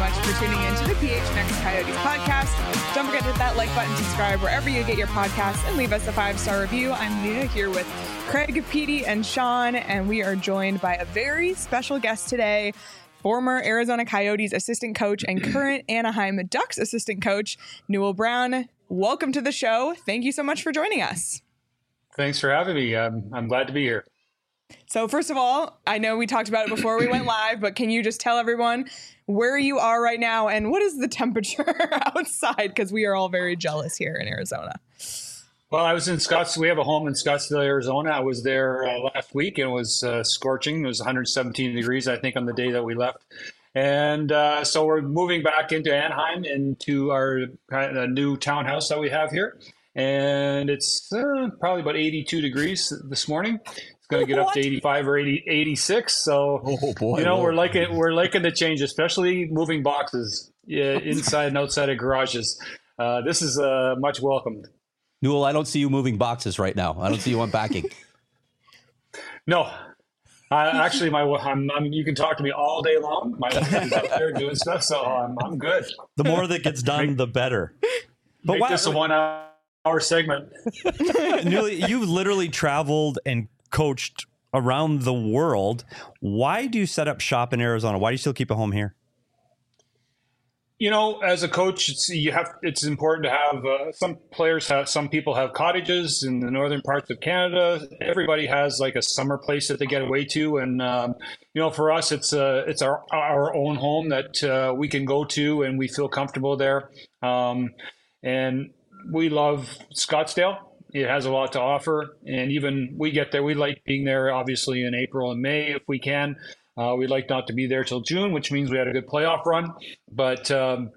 much for tuning in to the PHNX Coyotes podcast. Don't forget to hit that like button, subscribe wherever you get your podcasts, and leave us a 5-star review. I'm Nina here with Craig, Petey, and Sean, and we are joined by a very special guest today, former Arizona Coyotes assistant coach and current Anaheim Ducks assistant coach, Newell Brown. Welcome to the show. Thank you so much for joining us. Thanks for having me. I'm glad to be here. So first of all, I know we talked about it before we went live, but can you just tell everyone where you are right now and what is the temperature outside? Because we are all very jealous here in Arizona. Well, I was in Scottsdale. We have a home in Scottsdale, Arizona. I was there last week and it was scorching. It was 117 degrees, I think, on the day that we left. And so we're moving back into Anaheim, into our new townhouse that we have here. And it's probably about 82 degrees this morning. It's going to get up to 85 or 86. So, we're liking the change, especially moving boxes inside and outside of garages. This is much welcomed. Newell, I don't see you moving boxes right now. I don't see you unpacking. No. Actually, you can talk to me all day long. My wife is up there doing stuff, so I'm good. The more that gets done, the better. But make this a 1 hour segment. Newell, you've literally traveled and coached around the world. Why do you set up shop in Arizona? Why do you still keep a home here? As a coach, it's important to have some people have cottages in the northern parts of Canada. Everybody has like a summer place that they get away to. And, for us, it's our own home that we can go to and we feel comfortable there. And we love Scottsdale. It has a lot to offer. And even we get there, we like being there, obviously, in April and May if we can. We'd like not to be there till June, which means we had a good playoff run. But,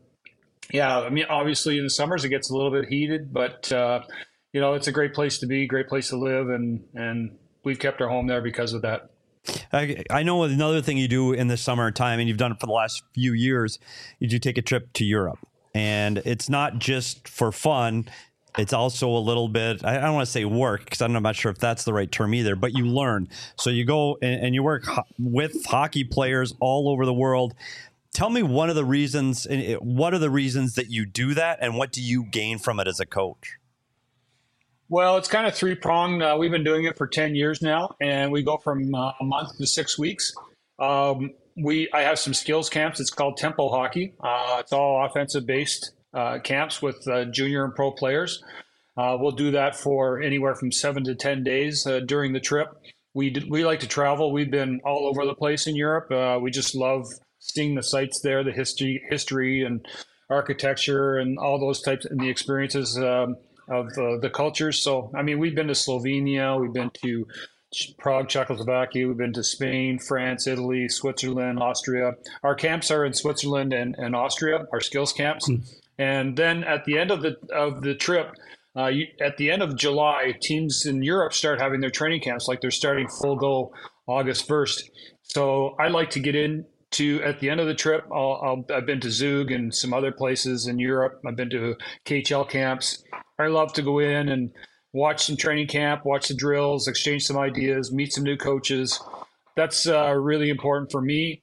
obviously in the summers it gets a little bit heated. But, it's a great place to be, great place to live. And we've kept our home there because of that. I know another thing you do in the summertime, and you've done it for the last few years, is you take a trip to Europe. And it's not just for fun. It's also a little bit, I don't want to say work, because I'm not sure if that's the right term either, but you learn. So you go and you work with hockey players all over the world. Tell me what are the reasons that you do that, and what do you gain from it as a coach? Well, it's kind of three-pronged. We've been doing it for 10 years now, and we go from a month to 6 weeks. I have some skills camps. It's called Tempo Hockey. It's all offensive-based camps with junior and pro players. We'll do that for anywhere from 7 to 10 days during the trip. We like to travel. We've been all over the place in Europe. We just love seeing the sites there, the history and architecture and all those types and the experiences of the cultures. So, we've been to Slovenia, we've been to Prague, Czechoslovakia, we've been to Spain, France, Italy, Switzerland, Austria. Our camps are in Switzerland and Austria, our skills camps. And then at the end of the trip, at the end of July, teams in Europe start having their training camps, like they're starting full go August 1st. So I like to get into, at the end of the trip, I've been to Zug and some other places in Europe. I've been to KHL camps. I love to go in and watch some training camp, watch the drills, exchange some ideas, meet some new coaches. That's really important for me,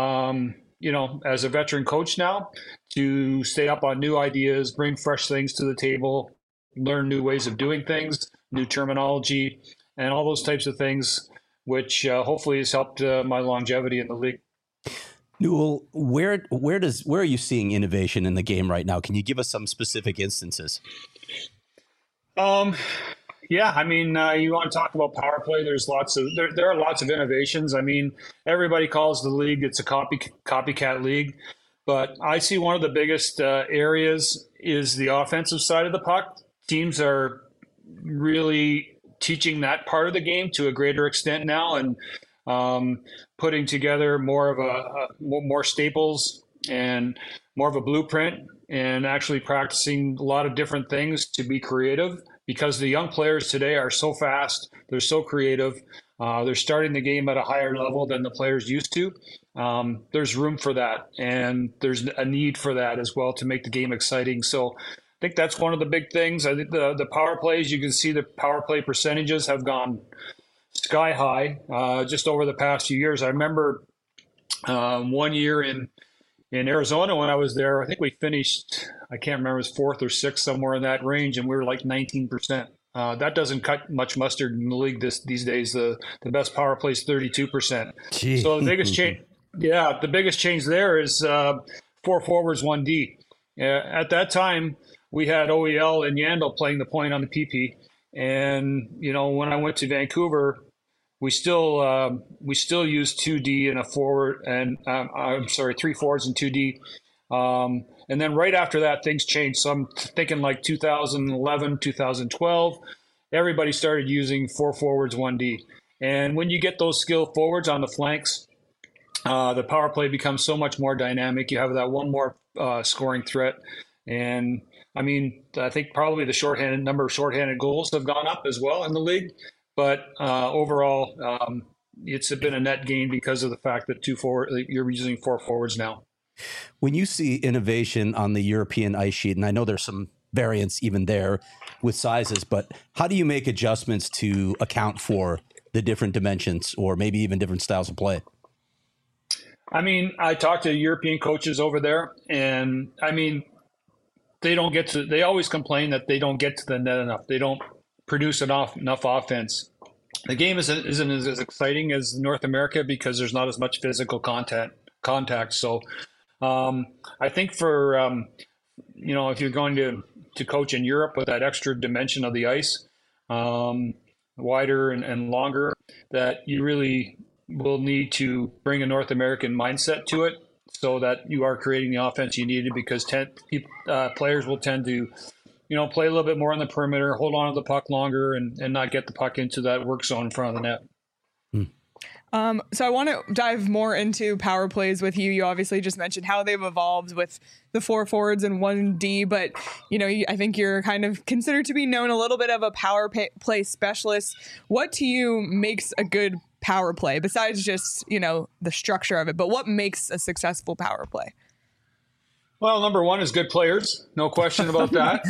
as a veteran coach now, to stay up on new ideas, bring fresh things to the table, learn new ways of doing things, new terminology, and all those types of things, which hopefully has helped my longevity in the league. Newell, where are you seeing innovation in the game right now? Can you give us some specific instances? You want to talk about power play? There are lots of innovations. Everybody calls the league, it's a copycat league, but I see one of the biggest areas is the offensive side of the puck. Teams are really teaching that part of the game to a greater extent now, and putting together more staples and more of a blueprint, and actually practicing a lot of different things to be creative, because the young players today are so fast, they're so creative, they're starting the game at a higher level than the players used to. There's room for that, and there's a need for that as well to make the game exciting. So I think that's one of the big things. I think the power plays, you can see the power play percentages have gone sky high just over the past few years. I remember one year in In Arizona, when I was there, I think we finished, I can't remember, it was fourth or sixth, somewhere in that range, and we were like 19%. That doesn't cut much mustard in the league these days. The best power play is 32%. Gee. So the biggest change, the biggest change there is 4 forwards, 1D. At that time, we had OEL and Yandel playing the point on the PP. And, when I went to Vancouver, we still use 2D and a forward, and 3 forwards and 2D. And then right after that, things changed. So I'm thinking like 2011, 2012, everybody started using 4 forwards, 1D. And when you get those skilled forwards on the flanks, the power play becomes so much more dynamic. You have that one more scoring threat. And I mean, I think probably the number of shorthanded goals have gone up as well in the league. But overall, it's been a net gain because of the fact that you're using 4 forwards now. When you see innovation on the European ice sheet, and I know there's some variance even there with sizes, but how do you make adjustments to account for the different dimensions or maybe even different styles of play? I mean, I talked to European coaches over there, and I mean, they always complain that they don't get to the net enough. They don't produce enough offense. The game isn't as exciting as North America because there's not as much physical contact. So I think for, if you're going to coach in Europe with that extra dimension of the ice, wider and longer, that you really will need to bring a North American mindset to it so that you are creating the offense you needed, because players will tend to, play a little bit more on the perimeter, hold on to the puck longer, and not get the puck into that work zone in front of the net. So I want to dive more into power plays with you. You obviously just mentioned how they've evolved with the 4 forwards and 1D, but I think you're kind of considered to be known a little bit of a power play specialist. What to you makes a good power play besides just, the structure of it, but what makes a successful power play? Well, number one is good players. No question about that.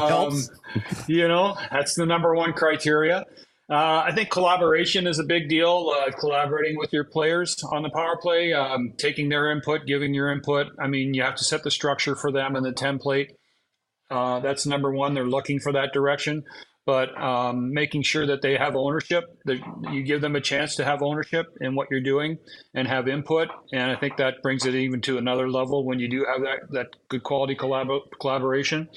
That's the number one criteria. I think collaboration is a big deal, collaborating with your players on the power play, taking their input, giving your input. I mean, you have to set the structure for them in the template. That's number one. They're looking for that direction. But making sure that they have ownership, that you give them a chance to have ownership in what you're doing and have input. And I think that brings it even to another level when you do have that good quality collaboration.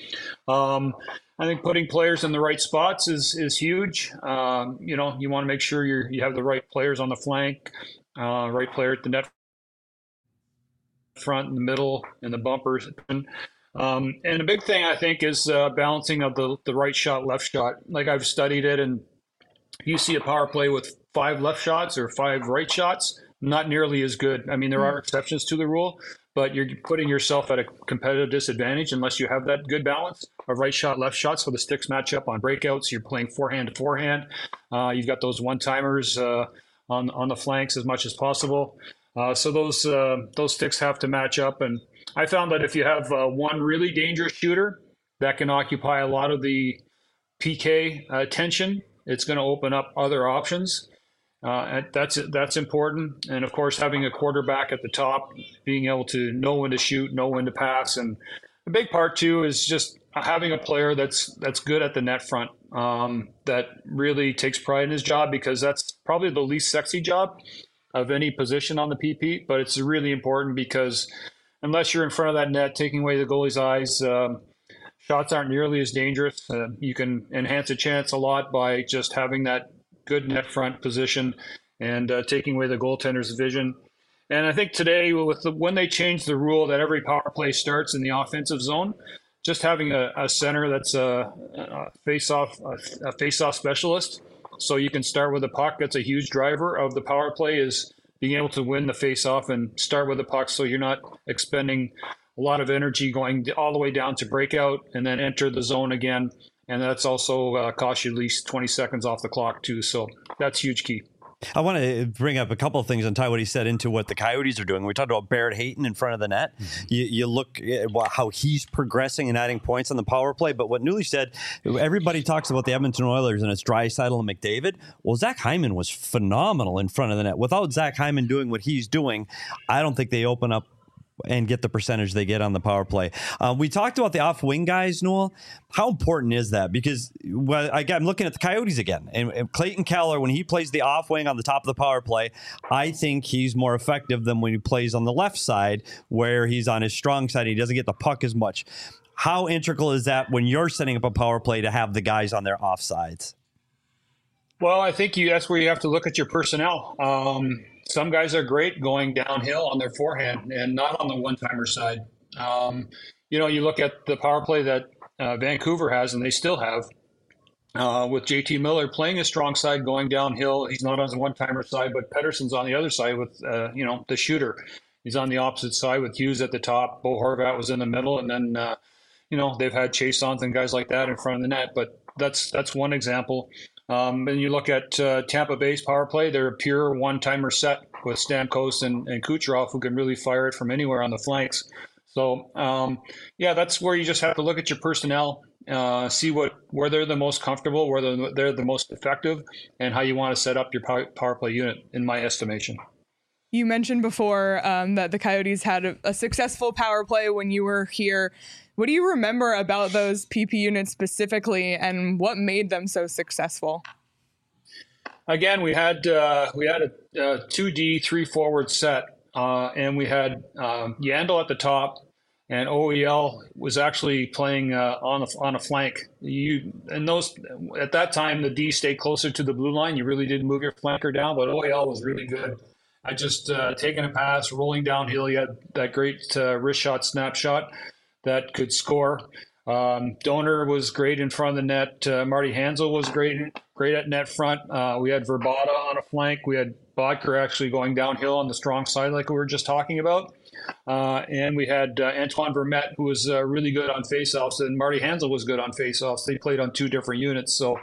I think putting players in the right spots is huge. You want to make sure you have the right players on the flank, right player at the net front, in the middle, and the bumpers. And a big thing, I think, is balancing of the right shot, left shot. Like, I've studied it, and you see a power play with 5 left shots or 5 right shots, not nearly as good. I mean, there are exceptions to the rule, but you're putting yourself at a competitive disadvantage unless you have that good balance of right shot, left shot, so the sticks match up on breakouts. You're playing forehand to forehand. You've got those one-timers on the flanks as much as possible. So those sticks have to match up. And I found that if you have one really dangerous shooter that can occupy a lot of the PK attention, it's going to open up other options. And that's important. And of course, having a quarterback at the top, being able to know when to shoot, know when to pass. And the big part too is just having a player that's good at the net front, that really takes pride in his job, because that's probably the least sexy job of any position on the PP. But it's really important because unless you're in front of that net, taking away the goalie's eyes, shots aren't nearly as dangerous. You can enhance a chance a lot by just having that good net front position and taking away the goaltender's vision. And I think today, when they changed the rule that every power play starts in the offensive zone, just having a center that's a face-off specialist, so you can start with a puck. That's a huge driver of the power play, is being able to win the face-off and start with the puck, so you're not expending a lot of energy going all the way down to breakout and then enter the zone again. And that's also costs you at least 20 seconds off the clock too. So that's huge key. I want to bring up a couple of things and tie what he said into what the Coyotes are doing. We talked about Barrett Hayton in front of the net. Mm-hmm. You look at how he's progressing and adding points on the power play. But what Newley said, everybody talks about the Edmonton Oilers and it's Draisaitl and McDavid. Well, Zach Hyman was phenomenal in front of the net. Without Zach Hyman doing what he's doing, I don't think they open up and get the percentage they get on the power play. We talked about the off wing guys, Noel. How important is that? Because I'm looking at the Coyotes again, and Clayton Keller, when he plays the off wing on the top of the power play, I think he's more effective than when he plays on the left side, where he's on his strong side. He doesn't get the puck as much. How integral is that when you're setting up a power play to have the guys on their offsides? Well, I think that's where you have to look at your personnel. Some guys are great going downhill on their forehand and not on the one-timer side. You look at the power play that Vancouver has, and they still have, with JT Miller playing a strong side going downhill. He's not on the one-timer side, but Pettersson's on the other side with, the shooter. He's on the opposite side with Hughes at the top. Bo Horvat was in the middle, and then, they've had Chasons and guys like that in front of the net. But that's one example. And you look at Tampa Bay's power play, they're a pure one-timer set with Stamkos and Kucherov, who can really fire it from anywhere on the flanks. So, that's where you just have to look at your personnel, see where they're the most comfortable, where they're the most effective, and how you want to set up your power play unit, in my estimation. You mentioned before that the Coyotes had a successful power play when you were here. What do you remember about those PP units specifically, and what made them so successful? Again, we had a 2D 3-forward set, and we had Yandel at the top, and OEL was actually playing on a flank. At that time, the D stayed closer to the blue line. You really didn't move your flanker down, but OEL was really good. I just taking a pass, rolling downhill. He had that great wrist shot, snapshot that could score. Donor was great in front of the net. Marty Hansel was great at net front. We had Verbata on a flank. We had Bodker actually going downhill on the strong side like we were just talking about. And we had Antoine Vermette, who was really good on faceoffs, and Marty Hansel was good on faceoffs. They played on two different units. So,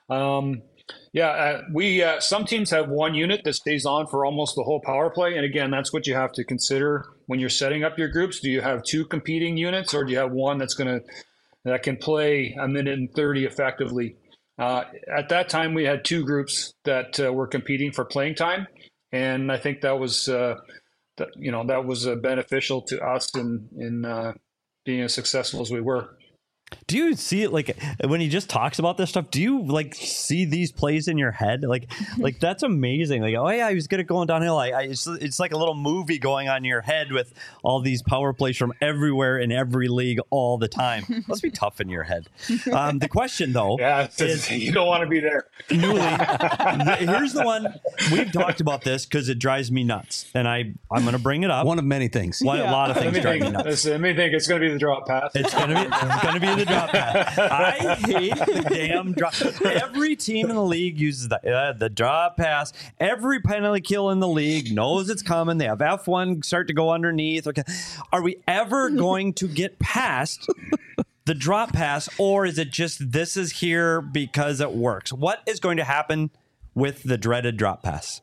some teams have one unit that stays on for almost the whole power play. And again, that's what you have to consider when you're setting up your groups. Do you have two competing units, or do you have one that can play a minute and 30 effectively? At that time, we had two groups that were competing for playing time. And I think that was, beneficial to us in being as successful as we were. Do you see it like when he just talks about this stuff? Do you like see these plays in your head? Like that's amazing. Like, oh yeah, he was good at going downhill. It's like a little movie going on in your head with all these power plays from everywhere in every league all the time. Must be tough in your head. The question though, is you don't want to be there. Here's the one we've talked about this because it drives me nuts, and I'm going to bring it up. One of many things. A lot of things drive me nuts. Let me think. It's going to be the drop pass. It's going to be the drop pass. I hate the damn drop. Every team in the league uses the drop pass. Every penalty kill in the league knows it's coming. They have F1 start to go underneath. Okay, are we ever going to get past the drop pass, or is it just this is here because it works? What is going to happen with the dreaded drop pass?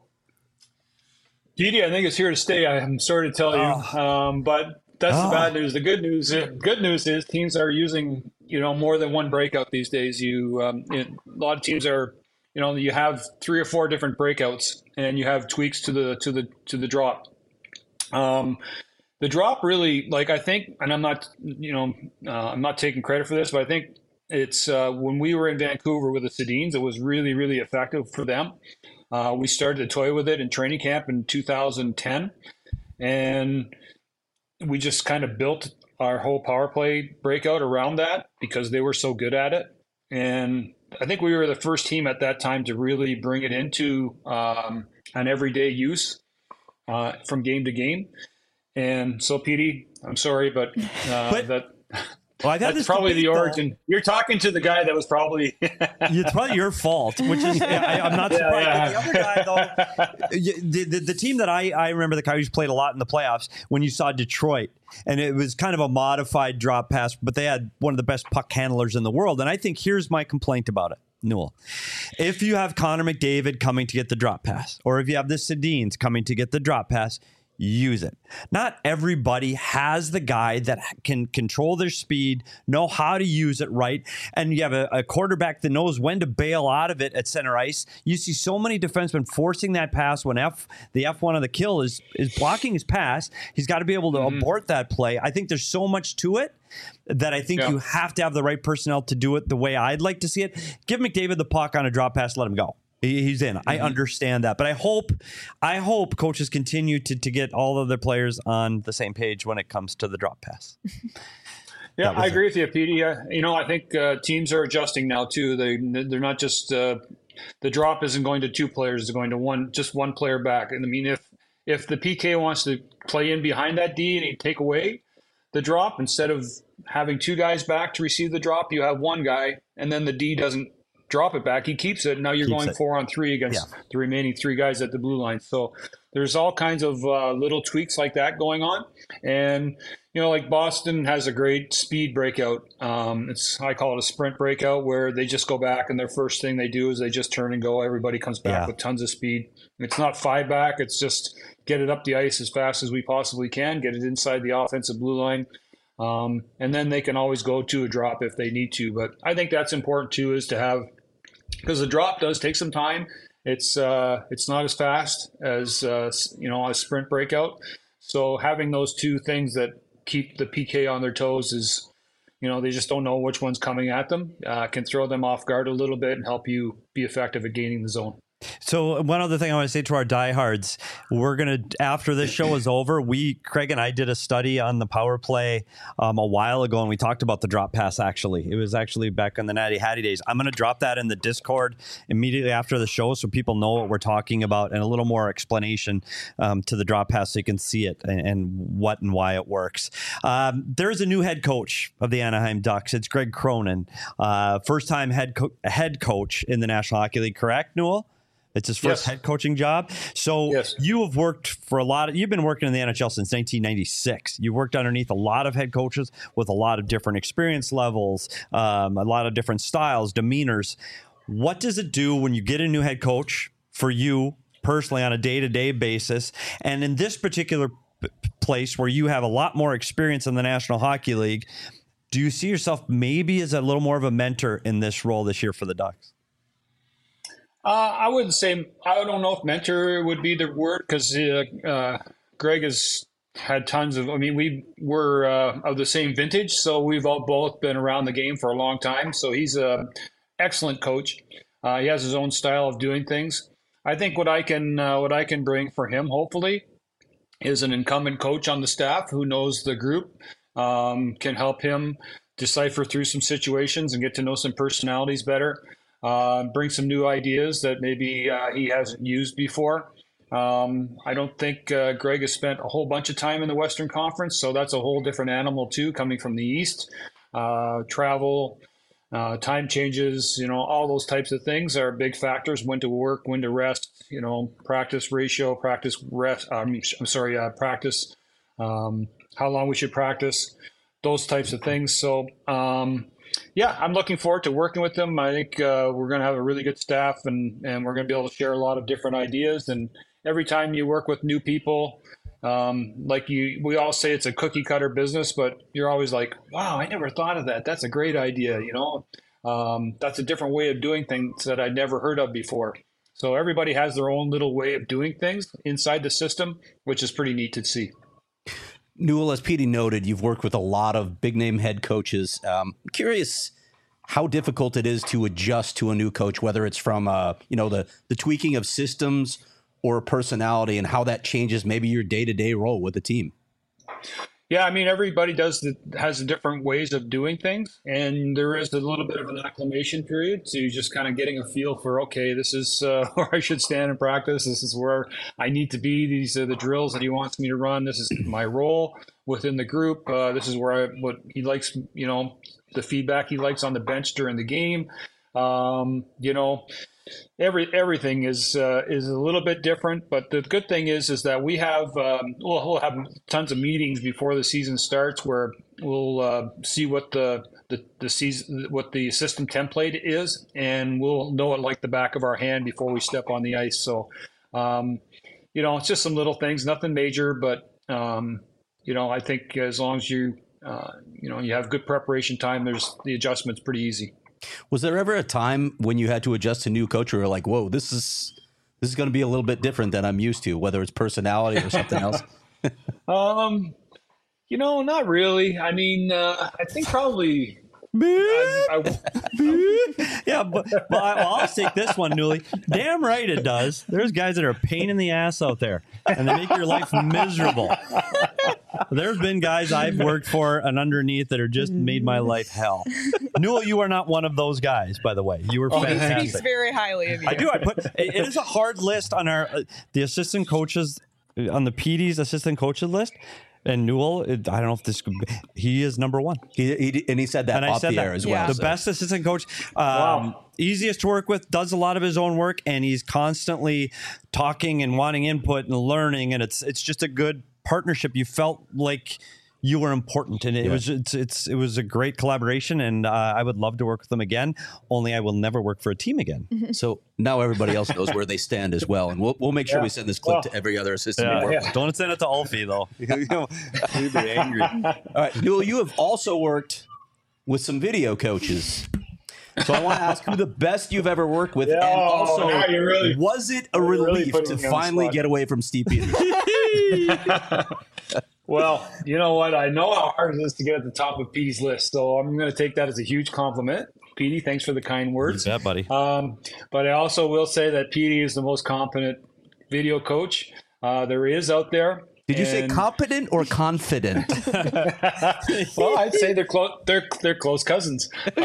Petey, I think it's here to stay. I'm sorry to tell you, but that's the bad news. The good news is teams are using more than one breakout these days. A lot of teams are you have 3 or 4 different breakouts, and you have tweaks to the drop. The drop really, I think, and I'm not taking credit for this, but I think it's when we were in Vancouver with the Sedins, it was really, really effective for them. We started to toy with it in training camp in 2010, and we just kind of built our whole power play breakout around that because they were so good at it. And I think we were the first team at that time to really bring it into an everyday use from game to game. And so, Petey, I'm sorry, but that's probably the origin. You're talking to the guy that was probably it's probably your fault, which is I'm not surprised. Yeah. But the other guy, though, the team that I remember the Coyotes played a lot in the playoffs when you saw Detroit, and it was kind of a modified drop pass, but they had one of the best puck handlers in the world. And I think here's my complaint about it, Newell. If you have Connor McDavid coming to get the drop pass, or if you have the Sedins coming to get the drop pass, use it. Not everybody has the guy that can control their speed, know how to use it right, and you have a quarterback that knows when to bail out of it at center ice. You see so many defensemen forcing that pass when the F1 of the kill is blocking his pass. He's got to be able to abort that play. I think there's so much to it that I think you have to have the right personnel to do it the way I'd like to see it. Give McDavid the puck on a drop pass, let him go. He's in. I understand that, but I hope coaches continue to get all of their players on the same page when it comes to the drop pass. Yeah, I agree with you, Petey. I think teams are adjusting now too. They're not just the drop isn't going to two players; it's going to one player back. And I mean, if the PK wants to play in behind that D and he take away the drop instead of having two guys back to receive the drop, you have one guy, and then the D doesn't drop it back. He keeps it. Now you're going 4-on-3 against the remaining three guys at the blue line. So there's all kinds of little tweaks like that going on. And, like Boston has a great speed breakout. I call it a sprint breakout, where they just go back and their first thing they do is they just turn and go. Everybody comes back with tons of speed. It's not 5 back. It's just get it up the ice as fast as we possibly can, get it inside the offensive blue line. And then they can always go to a drop if they need to. But I think that's important too, is to have, because the drop does take some time. It's not as fast as a sprint breakout. So having those two things that keep the PK on their toes is, they just don't know which one's coming at them, can throw them off guard a little bit and help you be effective at gaining the zone. So one other thing I want to say to our diehards, we're going to, after this show is over, Craig and I did a study on the power play a while ago, and we talked about the drop pass, actually. It was actually back in the Natty Hattie days. I'm going to drop that in the Discord immediately after the show so people know what we're talking about and a little more explanation to the drop pass so you can see it and what and why it works. There's a new head coach of the Anaheim Ducks. It's Greg Cronin, first-time head coach in the National Hockey League, correct, Newell? It's his first head coaching job. So you have worked for you've been working in the NHL since 1996. You've worked underneath a lot of head coaches with a lot of different experience levels, a lot of different styles, demeanors. What does it do when you get a new head coach for you personally on a day-to-day basis? And in this particular place where you have a lot more experience in the National Hockey League, do you see yourself maybe as a little more of a mentor in this role this year for the Ducks? I wouldn't say, I don't know if mentor would be the word, because Greg has had tons of, we were of the same vintage, so we've all both been around the game for a long time. So he's an excellent coach. He has his own style of doing things. I think what I can bring for him, hopefully, is an incumbent coach on the staff who knows the group, can help him decipher through some situations and get to know some personalities better. Bring some new ideas that maybe he hasn't used before. I don't think Greg has spent a whole bunch of time in the Western Conference, so that's a whole different animal too, coming from the East. Travel, time changes, all those types of things are big factors. When to work, when to rest, practice ratio, practice rest. Practice. How long we should practice, those types of things. So. I'm looking forward to working with them. I think we're going to have a really good staff, and we're going to be able to share a lot of different ideas. And every time you work with new people, we all say it's a cookie cutter business, but you're always like, wow, I never thought of that. That's a great idea. That's a different way of doing things that I'd never heard of before. So everybody has their own little way of doing things inside the system, which is pretty neat to see. Newell, as Petey noted, you've worked with a lot of big-name head coaches. Curious how difficult it is to adjust to a new coach, whether it's from the tweaking of systems or personality, and how that changes maybe your day-to-day role with the team. Yeah, everybody has different ways of doing things, and there is a little bit of an acclimation period to just kind of getting a feel for, okay, this is where I should stand in practice. This is where I need to be. These are the drills that he wants me to run. This is my role within the group. This is what he likes, the feedback he likes on the bench during the game. Everything is a little bit different, but the good thing is that we have we'll have tons of meetings before the season starts where we'll see what the season, what the system template is, and we'll know it like the back of our hand before we step on the ice. So it's just some little things, nothing major, but I think as long as you have good preparation time, the adjustment's pretty easy. Was there ever a time when you had to adjust to new coach, or you were like, whoa, this is going to be a little bit different than I'm used to, whether it's personality or something else? Not really. I mean, I think probably. Yeah, but I'll take this one, Newly. Damn right it does. There's guys that are a pain in the ass out there, and they make your life miserable. There's been guys I've worked for and underneath that are just made my life hell. Newell, you are not one of those guys, by the way. You were fantastic. He speaks very highly of you. I do. It is a hard list on the assistant coaches, on the PD's assistant coaches list. And Newell, I don't know if he is number one. He said that off the air as well. The best assistant coach, easiest to work with, does a lot of his own work, and he's constantly talking and wanting input and learning, and it's just a good partnership. You felt like you were important, and it was a great collaboration, and I would love to work with them again. Only I will never work for a team again. So now everybody else knows where they stand as well, and we'll make sure we send this clip to every other assistant we work with. Don't send it to Alfie though. He'd be angry. All right, Newell, you have also worked with some video coaches. So I want to ask who the best you've ever worked with, and also, was it a relief to finally get away from Steve Peters? Well, you know what? I know how hard it is to get at the top of Petey's list, so I'm going to take that as a huge compliment. Petey, thanks for the kind words. Yeah, buddy. But I also will say that Petey is the most competent video coach there is out there. Did you say competent or confident? Well, I'd say they're close. They're close cousins.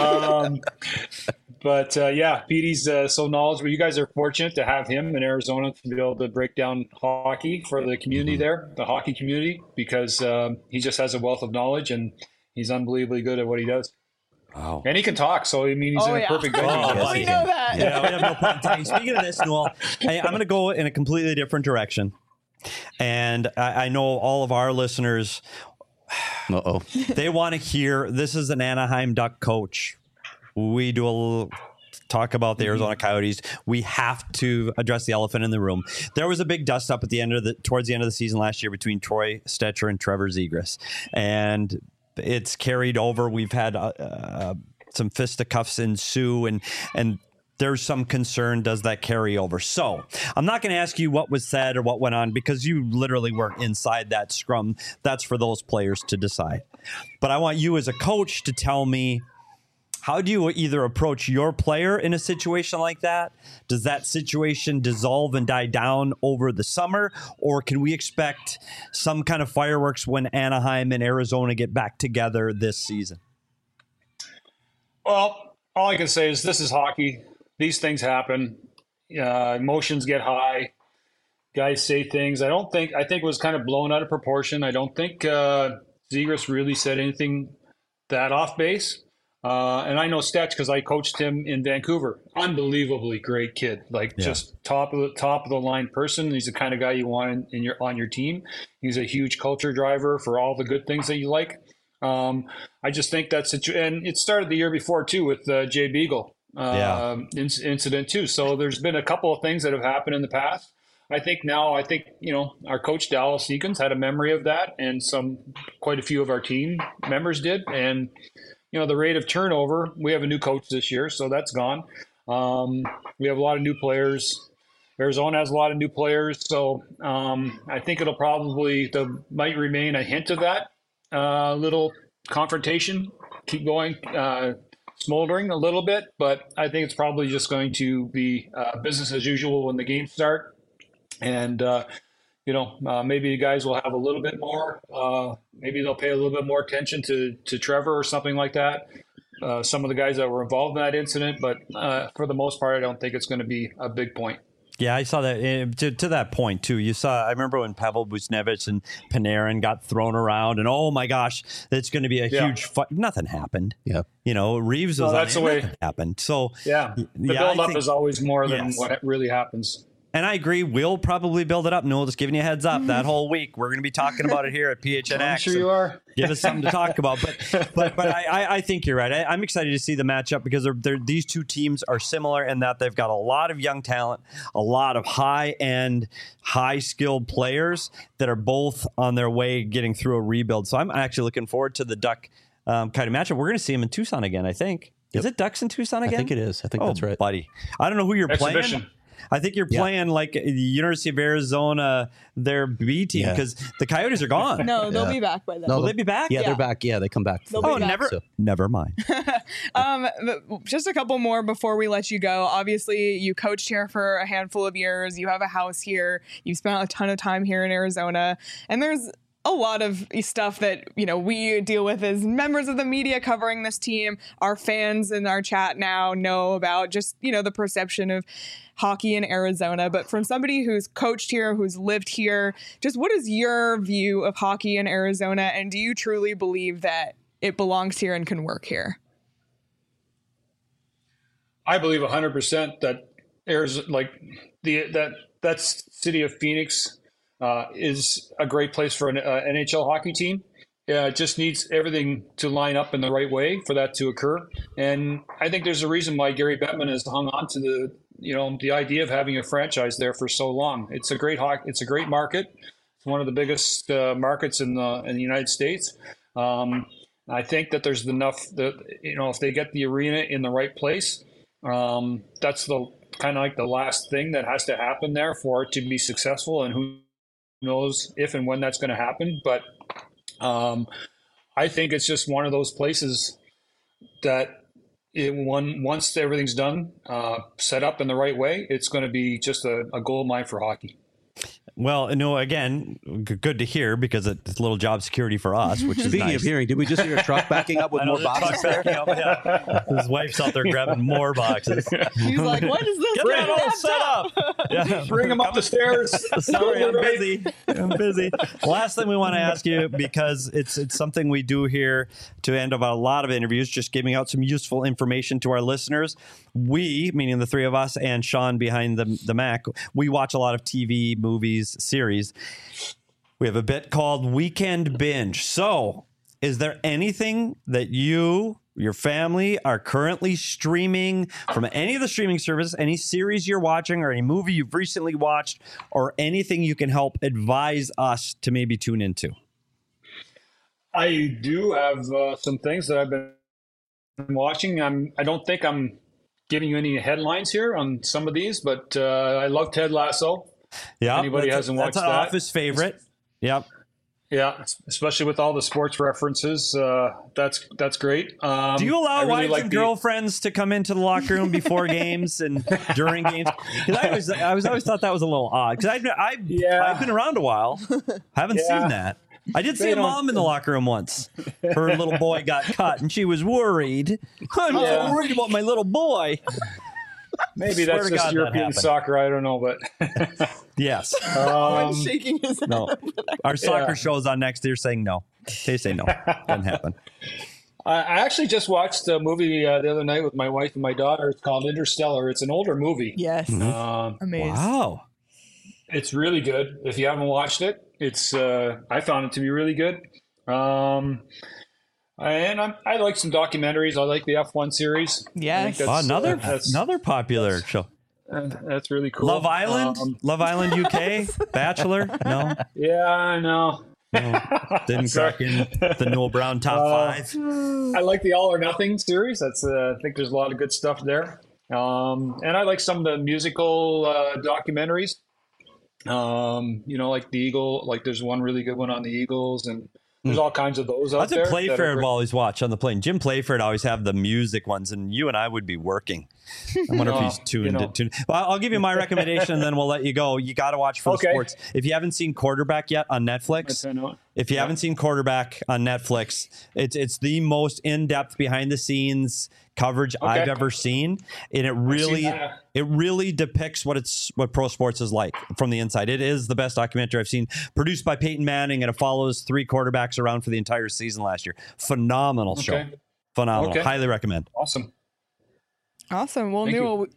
But Petey's so knowledgeable. You guys are fortunate to have him in Arizona to be able to break down hockey for the community there, the hockey community, because he just has a wealth of knowledge and he's unbelievably good at what he does. Wow. And he can talk, so I mean, he's in a perfect venue. We know that. Yeah, we have no problem talking. Speaking of this, Newell, I'm going to go in a completely different direction. And I know all of our listeners, they want to hear, this is an Anaheim Duck coach. We do a little talk about the Arizona Coyotes. We have to address the elephant in the room. There was a big dust up towards the end of the season last year between Troy Stecher and Trevor Zegras. And it's carried over. We've had some fisticuffs ensue, and there's some concern, does that carry over? So I'm not going to ask you what was said or what went on, because you literally weren't inside that scrum. That's for those players to decide. But I want you as a coach to tell me, how do you either approach your player in a situation like that? Does that situation dissolve and die down over the summer? Or can we expect some kind of fireworks when Anaheim and Arizona get back together this season? Well, all I can say is this is hockey. These things happen. Emotions get high. Guys say things. I think it was kind of blown out of proportion. I don't think Zegras really said anything that off base. And I know Stetch because I coached him in Vancouver. Unbelievably great kid, just top of the line person. He's the kind of guy you want on your team. He's a huge culture driver for all the good things that you like. I just think and it started the year before too with Jay Beagle incident too. So there's been a couple of things that have happened in the past. I think our coach Dallas Eakins had a memory of that, and quite a few of our team members did, and. The rate of turnover, we have a new coach this year, so that's gone. We have a lot of new players. Arizona has a lot of new players. So I think there might remain a hint of that little confrontation, keep going, smoldering a little bit. But I think it's probably just going to be business as usual when the games start. And, maybe the guys will have a little bit more, maybe they'll pay a little bit more attention to Trevor or something like that. Some of the guys that were involved in that incident, but for the most part, I don't think it's going to be a big point. Yeah, I saw that to that point too. I remember when Pavel Buchnevich and Panarin got thrown around, and oh my gosh, it's going to be a huge fight. Nothing happened. Yeah, Reeves was that's the way happened. So the build up is always more than what really happens. And I agree. We'll probably build it up. No, just giving you a heads up. That whole week, we're going to be talking about it here at PHNX. I'm sure you are. Give us something to talk about. But I think you're right. I'm excited to see the matchup because these two teams are similar in that they've got a lot of young talent, a lot of high-end, high-skilled players that are both on their way getting through a rebuild. So I'm actually looking forward to the Duck kind of matchup. We're going to see them in Tucson again, I think. Yep. Is it Ducks in Tucson again? I think it is. I think that's right. Buddy. I don't know who you're playing. I think you're playing like the University of Arizona, their B team, because the Coyotes are gone. No, they'll be back by then. Will they be back? Yeah, they're back. Yeah, they come back. Never mind. Just a couple more before we let you go. Obviously, you coached here for a handful of years. You have a house here. You've spent a ton of time here in Arizona. And there's a lot of stuff that, we deal with as members of the media covering this team. Our fans in our chat now know about just, the perception of hockey in Arizona. But from somebody who's coached here, who's lived here, just what is your view of hockey in Arizona? And do you truly believe that it belongs here and can work here? I believe 100% that Arizona, that city of Phoenix, is a great place for an NHL hockey team. It just needs everything to line up in the right way for that to occur. And I think there's a reason why Gary Bettman has hung on to the idea of having a franchise there for so long. It's a great market. It's one of the biggest markets in the United States. I think that there's enough that, if they get the arena in the right place, that's the kind of like the last thing that has to happen there for it to be successful. And who knows if and when that's going to happen. But I think it's just one of those places that once everything's done, set up in the right way, it's going to be just a gold mine for hockey. Well, again, good to hear because it's a little job security for us, which is Speaking nice. of hearing, did we just hear a truck backing up with more boxes there? His wife's out there grabbing more boxes. He's like, what is this? Get that all set up. Yeah. Bring him up the stairs. Sorry, I'm busy. Last thing we want to ask you, because it's something we do here to end of a lot of interviews, just giving out some useful information to our listeners. We, meaning the three of us and Sean behind the Mac, we watch a lot of TV, movies, series. We have a bit called Weekend Binge. So, is there anything that you, your family, are currently streaming from any of the streaming services, any series you're watching or any movie you've recently watched, or anything you can help advise us to maybe tune into? I do have some things that I've been watching. I don't think I'm giving you any headlines here on some of these, but I love Ted Lasso. Yeah, anybody hasn't watched that's an Office favorite. Yep. Yeah, especially with all the sports references. That's great. Do you allow wives and girlfriends to come into the locker room before games and during games? Because I always thought that was a little odd. Because I've been around a while, haven't seen that. I did see a mom in the locker room once. Her little boy got cut, and she was worried. I'm so worried about my little boy. Maybe that's just European soccer. I don't know, but yes. Shaking his head. No, our soccer show's on next. They're saying no. They say no. Doesn't happen. I actually just watched a movie the other night with my wife and my daughter. It's called Interstellar. It's an older movie. Yes. Amazing. Wow. It's really good. If you haven't watched it, it's I found it to be really good. And I like some documentaries. I like the F1 series. Yes. Another popular show. That's really cool. Love Island? Love Island UK? Bachelor? No? Yeah, I know. No. Didn't crack in the Noel Brown top 5. I like the All or Nothing series. I think there's a lot of good stuff there. And I like some of the musical documentaries. Like the Eagle. Like there's one really good one on the Eagles, and there's all kinds of those out there. That's what Playfair will always watch on the plane. Jim Playfair always have the music ones, and you and I would be working. I wonder if he's tuned. Well, I'll give you my recommendation, and then we'll let you go. You got to watch for the sports. If you haven't seen Quarterback yet on Netflix, haven't seen Quarterback on Netflix, it's the most in-depth, behind-the-scenes coverage I've ever seen, and it really depicts what pro sports is like from the inside. It is the best documentary I've seen, produced by Peyton Manning, and it follows 3 quarterbacks around for the entire season last year. Phenomenal show. Phenomenal. Highly recommend. Awesome. Well, Newell,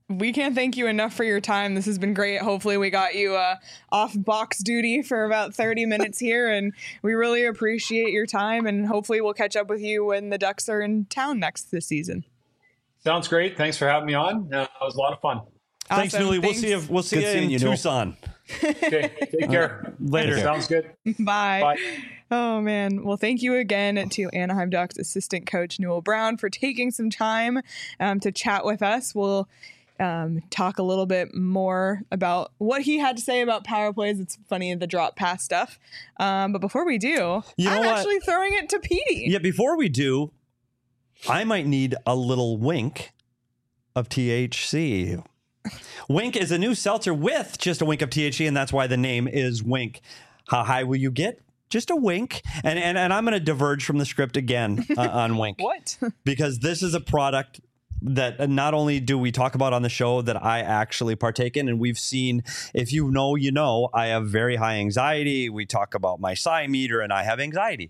we can't thank you enough for your time. This has been great. Hopefully we got you off box duty for about 30 minutes here, and we really appreciate your time, and hopefully we'll catch up with you when the Ducks are in town next this season. Sounds great. Thanks for having me on. It was a lot of fun. Thanks, Awesome. Newly. Thanks. We'll see you in Tucson. Okay, take care. Later. Sounds good. Bye. Bye. Oh, man. Well, thank you again to Anaheim Ducks assistant coach Newell Brown for taking some time to chat with us. We'll talk a little bit more about what he had to say about power plays. It's funny, the drop pass stuff. But before we do, I'm actually throwing it to Petey. Yeah, before we do, I might need a little wink of THC. Wink is a new seltzer with just a wink of THC, and that's why the name is Wink. How high will you get? Just a wink. And I'm going to diverge from the script again on Wink. What? Because this is a product that not only do we talk about on the show that I actually partake in, and we've seen, if you know, you know, I have very high anxiety. We talk about my Psy meter, and I have anxiety.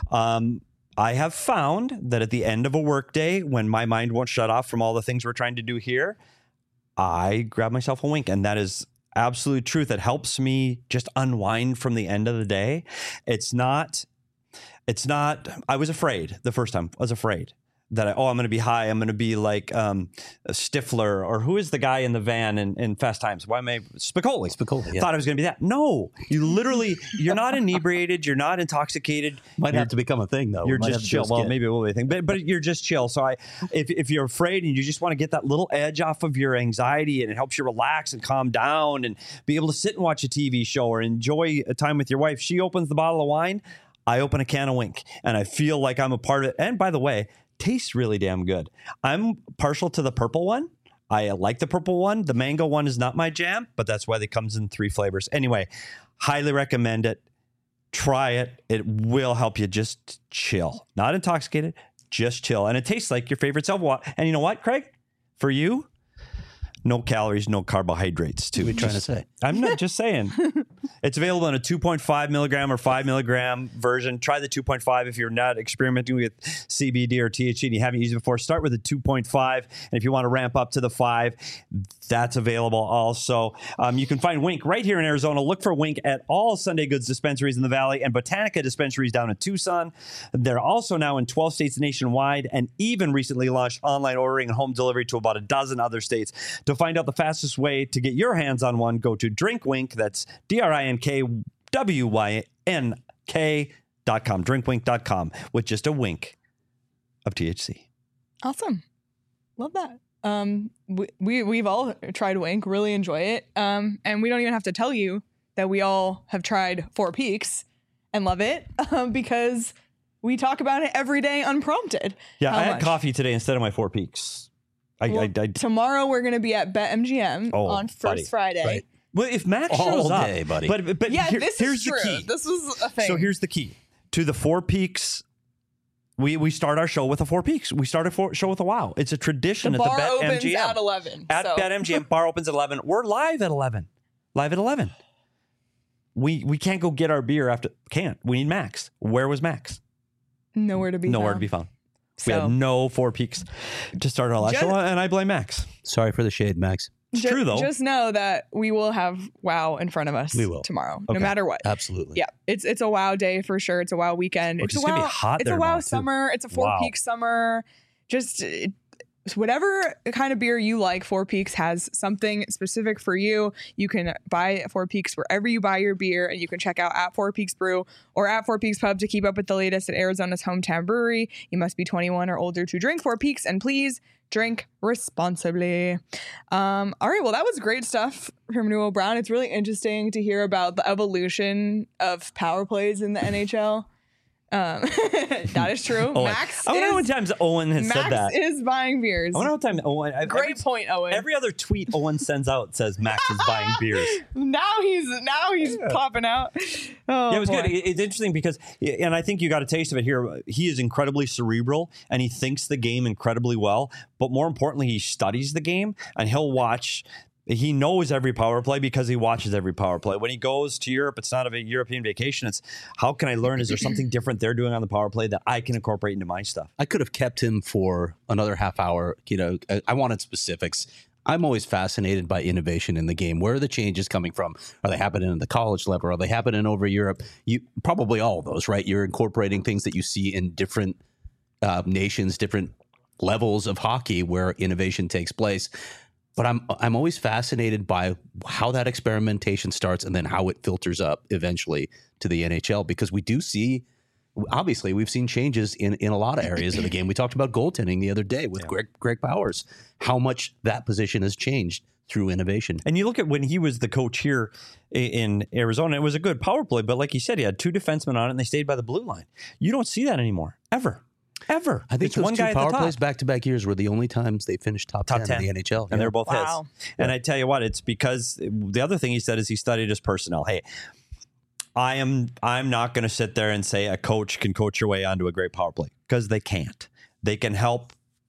I have found that at the end of a workday, when my mind won't shut off from all the things we're trying to do here, I grab myself a wink, and that is absolute truth. It helps me just unwind from the end of the day. It's not, I was afraid the first time. I was afraid that I'm going to be high. I'm going to be like Stifler, or who is the guy in the van in Fast Times? Why am I Spicoli? Yeah. Thought I was going to be that. No, you're not inebriated. You're not intoxicated. Might have to become a thing, though. You're just chill. Well, maybe it will be a thing, but you're just chill. So if you're afraid and you just want to get that little edge off of your anxiety, and it helps you relax and calm down and be able to sit and watch a TV show or enjoy a time with your wife. She opens the bottle of wine. I open a can of Wink, and I feel like I'm a part of it. And by the way, tastes really damn good. I'm partial to the purple one. I like the purple one. The mango one is not my jam, but that's why it comes in 3 flavors. Anyway, highly recommend it. Try it. It will help you just chill. Not intoxicated, just chill. And it tastes like your favorite self-water. And you know what, Craig? For you, no calories, no carbohydrates, too. What are you trying to say? I'm not just saying. It's available in a 2.5 milligram or 5 milligram version. Try the 2.5 if you're not experimenting with CBD or THC and you haven't used it before. Start with the 2.5. And if you want to ramp up to the 5, that's available also. You can find Wink right here in Arizona. Look for Wink at all Sunday Goods dispensaries in the Valley and Botanica dispensaries down in Tucson. They're also now in 12 states nationwide, and even recently launched online ordering and home delivery to about a dozen other states. To find out the fastest way to get your hands on one, go to DrinkWink. That's DrinkWynk.com. DrinkWink.com with just a wink of THC. Awesome. Love that. We've all tried Wink, really enjoy it. And we don't even have to tell you that we all have tried Four Peaks and love it because we talk about it every day unprompted. Yeah, I had coffee today instead of my Four Peaks. Tomorrow we're going to be at BetMGM on First Friday. Right. Well, if Max shows all day, buddy. But yeah, here's is the true. key. This was a thing. So here's the key to the Four Peaks. We start our show with a Four Peaks. We start a show with a wow. It's a tradition the at bar the opens BetMGM. at 11. At BetMGM, bar opens at 11. We're live at 11. Live at 11. We can't go get our beer after. Can't. We need Max. Where was Max? Nowhere to be found. We had no Four Peaks to start our last show, and I blame Max. Sorry for the shade, Max. It's true, though. Just know that we will have WoW in front of us tomorrow, no matter what. Absolutely. Yeah, it's a WoW day for sure. It's a WoW weekend. It's going to be hot It's there a WoW now, summer. It's a Four Peaks summer. Just whatever kind of beer you like, Four Peaks has something specific for you. You can buy Four Peaks wherever you buy your beer, and you can check out at Four Peaks Brew or at Four Peaks Pub to keep up with the latest at Arizona's hometown brewery. You must be 21 or older to drink Four Peaks, and please drink responsibly. All right, well, that was great stuff from Newell Brown. It's really interesting to hear about the evolution of power plays in the NHL. That is true. Owen. Max. I wonder how many times Owen has said that. Max is buying beers. I wonder how many times Owen. Great point, Owen. Every other tweet Owen sends out says Max is buying beers. Now he's popping out. Oh, yeah, it was boy. good. It's interesting because, and I think you got a taste of it here. He is incredibly cerebral and he thinks the game incredibly well. But more importantly, he studies the game and he'll watch. He knows every power play because he watches every power play. When he goes to Europe, it's not a European vacation. It's how can I learn? Is there something different they're doing on the power play that I can incorporate into my stuff? I could have kept him for another half hour. You know, I wanted specifics. I'm always fascinated by innovation in the game. Where are the changes coming from? Are they happening at the college level? Are they happening over Europe? You probably all of those, right? You're incorporating things that you see in different nations, different levels of hockey where innovation takes place. But I'm always fascinated by how that experimentation starts and then how it filters up eventually to the NHL, because we do see. Obviously, we've seen changes in a lot of areas of the game. We talked about goaltending the other day with Greg Powers, how much that position has changed through innovation. And you look at when he was the coach here in Arizona, it was a good power play. But like you said, he had 2 defensemen on it and they stayed by the blue line. You don't see that anymore, ever. I think it's those 2 power plays back-to-back years were the only times they finished top 10 in the NHL. And they're both his. And I tell you what, it's because the other thing he said is he studied his personnel. Hey, I'm not going to sit there and say a coach can coach your way onto a great power play, because they can't. They can help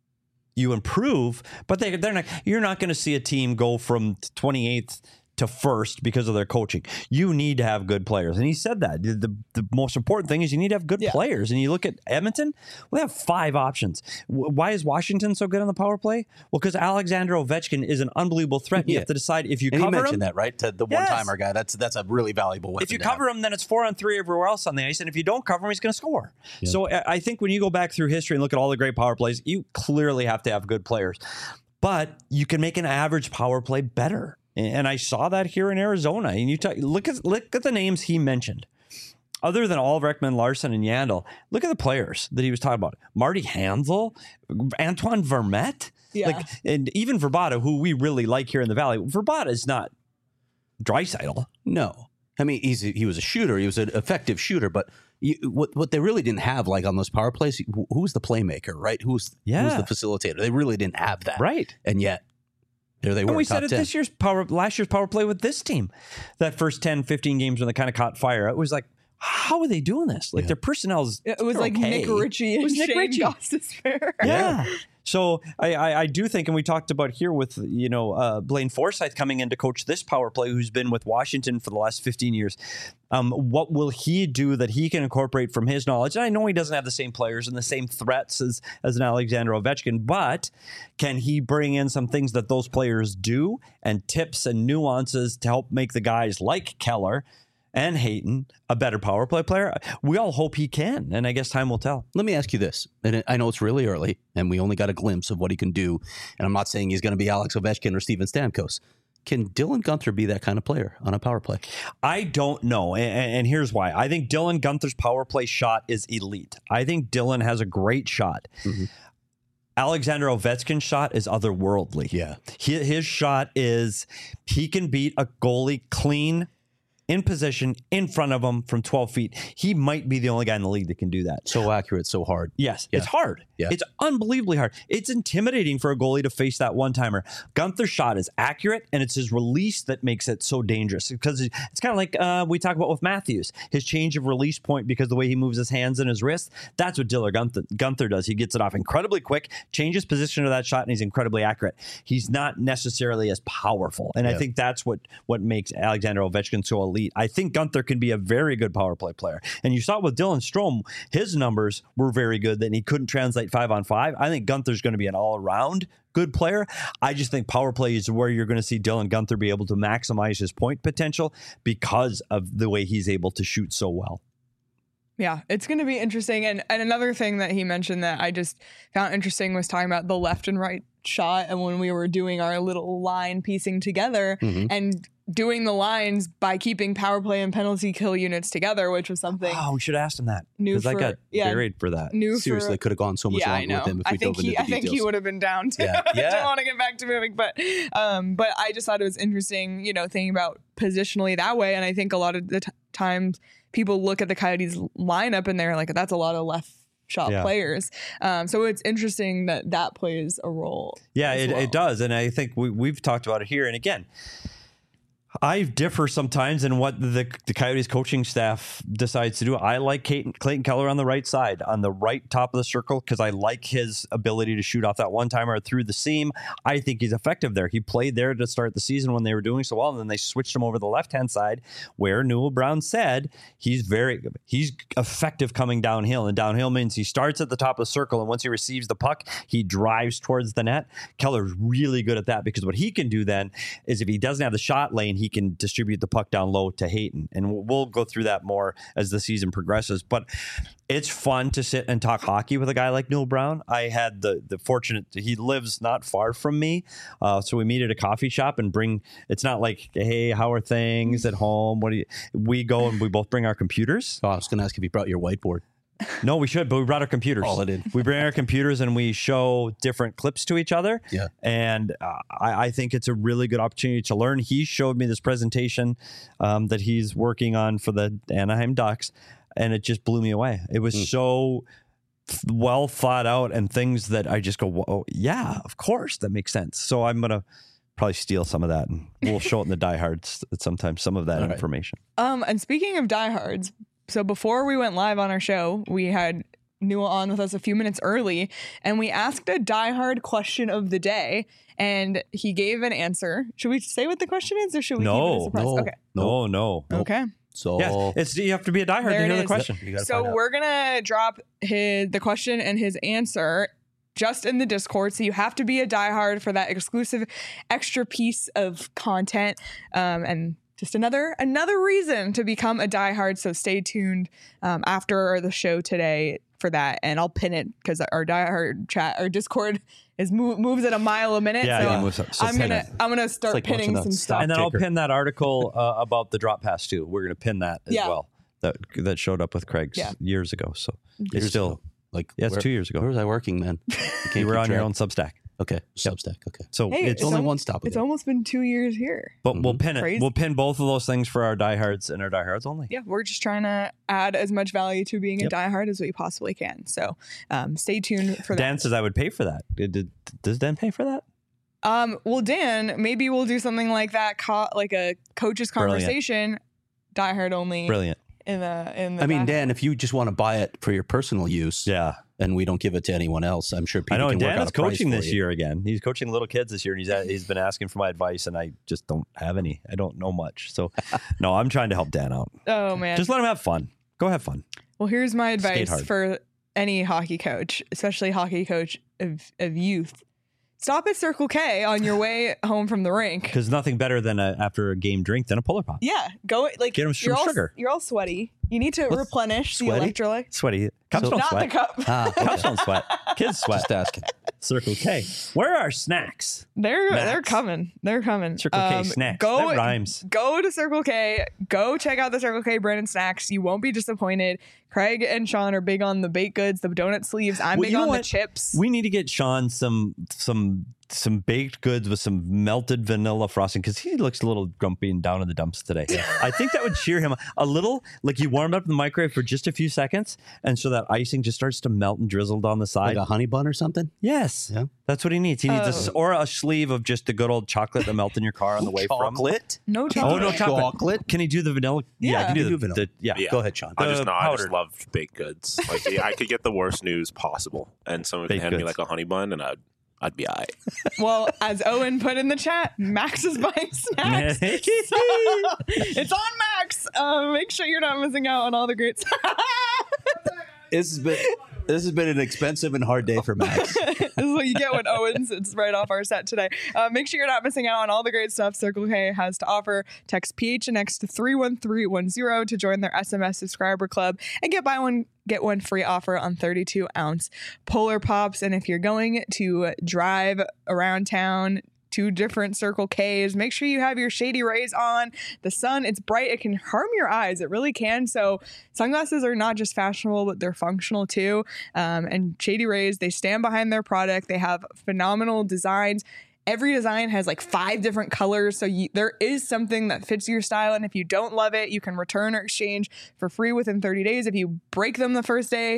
you improve, but they're not. You're not going to see a team go from 28th to first because of their coaching. You need to have good players. And he said that. The most important thing is you need to have good players. And you look at Edmonton, we have 5 options. Why is Washington so good on the power play? Well, because Alexander Ovechkin is an unbelievable threat. You have to decide if you cover him. And he mentioned that, right? To the one-timer guy. That's a really valuable weapon. If you cover him, then it's 4-on-3 everywhere else on the ice. And if you don't cover him, he's going to score. Yeah. So I think when you go back through history and look at all the great power plays, you clearly have to have good players. But you can make an average power play better. And I saw that here in Arizona. And you look at the names he mentioned. Other than Ulrich, Larson, and Yandel, look at the players that he was talking about. Marty Hanzal, Antoine Vermette, and even Verbata, who we really like here in the Valley. Verbata is not Draisaitl. No. I mean, he was a shooter. He was an effective shooter. But what they really didn't have, like on those power plays, who was the playmaker, right? Who was the facilitator? They really didn't have that. Right. And yet, there they were. And we said it last year's power play with this team. That first 10, 15 games when they kind of caught fire, it was like, how are they doing this? Like their personnel's it was like okay. Nick Ritchie and Shane Gostisbehere. Yeah. So I do think, and we talked about here with Blaine Forsythe coming in to coach this power play, who's been with Washington for the last 15 years. What will he do that he can incorporate from his knowledge? And I know he doesn't have the same players and the same threats as an Alexander Ovechkin, but can he bring in some things that those players do and tips and nuances to help make the guys like Keller and Hayton a better power play player? We all hope he can, and I guess time will tell. Let me ask you this, and I know it's really early, and we only got a glimpse of what he can do, and I'm not saying he's going to be Alex Ovechkin or Steven Stamkos. Can Dylan Guenther be that kind of player on a power play? I don't know, and here's why. I think Dylan Guenther's power play shot is elite. I think Dylan has a great shot. Mm-hmm. Alexander Ovechkin's shot is otherworldly. Yeah. His shot is he can beat a goalie clean, in position, in front of him from 12 feet. He might be the only guy in the league that can do that. So accurate, so hard. Yes, it's hard. Yeah. It's unbelievably hard. It's intimidating for a goalie to face that one-timer. Guenther's shot is accurate, and it's his release that makes it so dangerous. Because it's kind of like we talk about with Matthews. His change of release point, because the way he moves his hands and his wrist, that's what Dylan Guenther does. He gets it off incredibly quick, changes position to that shot, and he's incredibly accurate. He's not necessarily as powerful. And I think that's what makes Alexander Ovechkin so elite. I think Guenther can be a very good power play player. And you saw with Dylan Strome, his numbers were very good, and he couldn't translate 5-on-5. I think Guenther's going to be an all-around good player. I just think power play is where you're going to see Dylan Guenther be able to maximize his point potential because of the way he's able to shoot so well. Yeah, it's going to be interesting. And another thing that he mentioned that I just found interesting was talking about the left and right shot. And when we were doing our little line piecing together and doing the lines by keeping power play and penalty kill units together, which was something. Oh, we should have asked him that. Because I got buried for that. Seriously, could have gone so much longer with him if we dove into the details. I think he would have been down too. I don't want to get back to moving, but I just thought it was interesting, thinking about positionally that way. And I think a lot of the times people look at the Coyotes lineup and they're like, that's a lot of left shot players. So it's interesting that plays a role. Yeah, it does. And I think we've talked about it here. And again, I differ sometimes in what the Coyotes coaching staff decides to do. I like Clayton Keller on the right side, on the right top of the circle, because I like his ability to shoot off that one-timer through the seam. I think he's effective there. He played there to start the season when they were doing so well, and then they switched him over to the left-hand side, where Newell Brown said he's effective coming downhill, and downhill means he starts at the top of the circle, and once he receives the puck, he drives towards the net. Keller's really good at that, because what he can do then is if he doesn't have the shot lane, he can distribute the puck down low to Hayton. And we'll go through that more as the season progresses. But it's fun to sit and talk hockey with a guy like Newell Brown. I had the fortunate, he lives not far from me. So we meet at a coffee shop and it's not like, hey, how are things at home? We go and we both bring our computers. Oh, I was going to ask if you brought your whiteboard. No, we should, but we brought our computers. All it in. We bring our computers and we show different clips to each other. Yeah. And I think it's a really good opportunity to learn. He showed me this presentation that he's working on for the Anaheim Ducks, and it just blew me away. It was so well thought out and things that I just go, whoa, yeah, of course, that makes sense. So I'm going to probably steal some of that, and we'll show it in the diehards sometimes, some of that information. And speaking of diehards, so before we went live on our show, we had Newell on with us a few minutes early, and we asked a diehard question of the day, and he gave an answer. Should we say what the question is, or should we keep it a surprise? Okay. No. Okay. So yes, you have to be a diehard to hear the question. So we're gonna drop the question and his answer just in the Discord. So you have to be a diehard for that exclusive extra piece of content, and just another reason to become a diehard. So stay tuned after the show today for that, and I'll pin it because our diehard chat, our Discord moves at a mile a minute. Yeah, so it moves up. So I'm gonna start like pinning some stuff, and then I'll pin that article about the drop pass too. We're gonna pin that as well. That showed up with Craig's years ago. So it's still it's 2 years ago. Where was I working then? You were on your own Substack. Okay, Substack. Okay, so it's only one stop. It's almost been 2 years here. But we'll pin it. Crazy. We'll pin both of those things for our diehards and our diehards only. Yeah, we're just trying to add as much value to being a diehard as we possibly can. So stay tuned for that. Dan says I would pay for that. Does Dan pay for that? Well, Dan, maybe we'll do something like that, like a coach's conversation, diehard only. Brilliant. In the I mean, Dan, if you just want to buy it for your personal use, and we don't give it to anyone else, I'm sure people can work out a price for you. Dan is coaching this year again. He's coaching little kids this year, and he's been asking for my advice, and I just don't have any. I don't know much. So, no, I'm trying to help Dan out. Oh, man. Just let him have fun. Go have fun. Well, here's my advice for any hockey coach, especially hockey coach of youth. Stop at Circle K on your way home from the rink. Because nothing better than after a game drink than a Polar Pop. Yeah, go get him some sugar. You're all sweaty. You need to replenish the electrolyte. Sweaty. Cups don't not sweat. The cup. Cups don't sweat. Kids sweat. Just asking. Circle K. Where are our snacks? They're coming. They're coming. Circle K snacks. That rhymes. Go to Circle K. Go check out the Circle K Brandon snacks. You won't be disappointed. Craig and Sean are big on the baked goods, the donut sleeves. I'm big on the chips. We need to get Sean some baked goods with some melted vanilla frosting, because he looks a little grumpy and down in the dumps today. I think that would cheer him a little. Like you warm up in the microwave for just a few seconds, and so that icing just starts to melt and drizzle down the side. Like a honey bun or something? Yes. Yeah. That's what he needs. He needs or a sleeve of just the good old chocolate that melt in your car on the way from. Chocolate? No chocolate. Oh, no chocolate. Can he do the vanilla? Yeah, I can do the vanilla. Go ahead, Sean. I just loved baked goods. Like I could get the worst news possible, and someone could hand me like a honey bun, and I'd be all right. Well, as Owen put in the chat, Max is buying snacks. So, it's on Max. Make sure you're not missing out on all the great stuff. This has been an expensive and hard day for Max. This is what you get when Owens. It's right off our set today. Make sure you're not missing out on all the great stuff Circle K has to offer. Text PHNX to 31310 to join their SMS subscriber club and get one free offer on 32-ounce Polar Pops. And if you're going to drive around town, 2 different Circle Ks, make sure you have your Shady Rays on. The sun, it's bright. It can harm your eyes. It really can. So sunglasses are not just fashionable, but they're functional too. And Shady Rays, they stand behind their product. They have phenomenal designs. Every design has like 5 different colors. So there is something that fits your style. And if you don't love it, you can return or exchange for free within 30 days. If you break them the first day,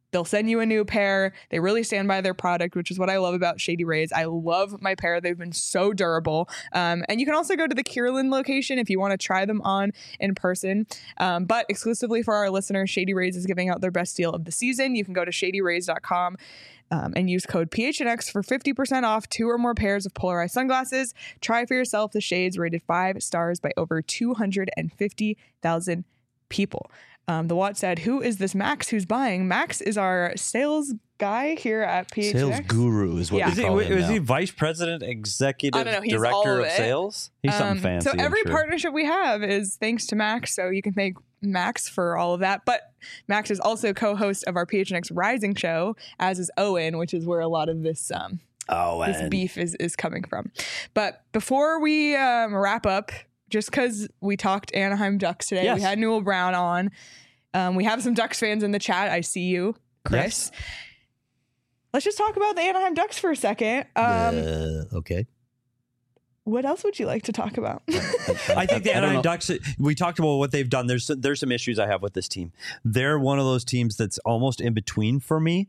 They'll send you a new pair. They really stand by their product, which is what I love about Shady Rays. I love my pair. They've been so durable. And you can also go to the Kierland location if you want to try them on in person. But exclusively for our listeners, Shady Rays is giving out their best deal of the season. You can go to shadyrays.com and use code PHNX for 50% off 2 or more pairs of polarized sunglasses. Try for yourself the shades rated 5 stars by over 250,000 people. The Watt said, who is this Max who's buying? Max is our sales guy here at PHNX. Sales guru is what we call him Is now. he vice president, executive I don't know, he's director all of of it. sales? He's something fancy. So every I'm sure. partnership we have is thanks to Max. So you can thank Max for all of that. But Max is also co-host of our PHNX Rising show, as is Owen, which is where a lot of this this beef is coming from. But before we wrap up, just because we talked Anaheim Ducks today, Yes. we had Newell Brown on. We have some Ducks fans in the chat. I see you, Chris. Yes. Let's just talk about the Anaheim Ducks for a second. Okay. What else would you like to talk about? I think the I don't Anaheim know. Ducks, we talked about what they've done. There's some issues I have with this team. They're one of those teams that's almost in between for me.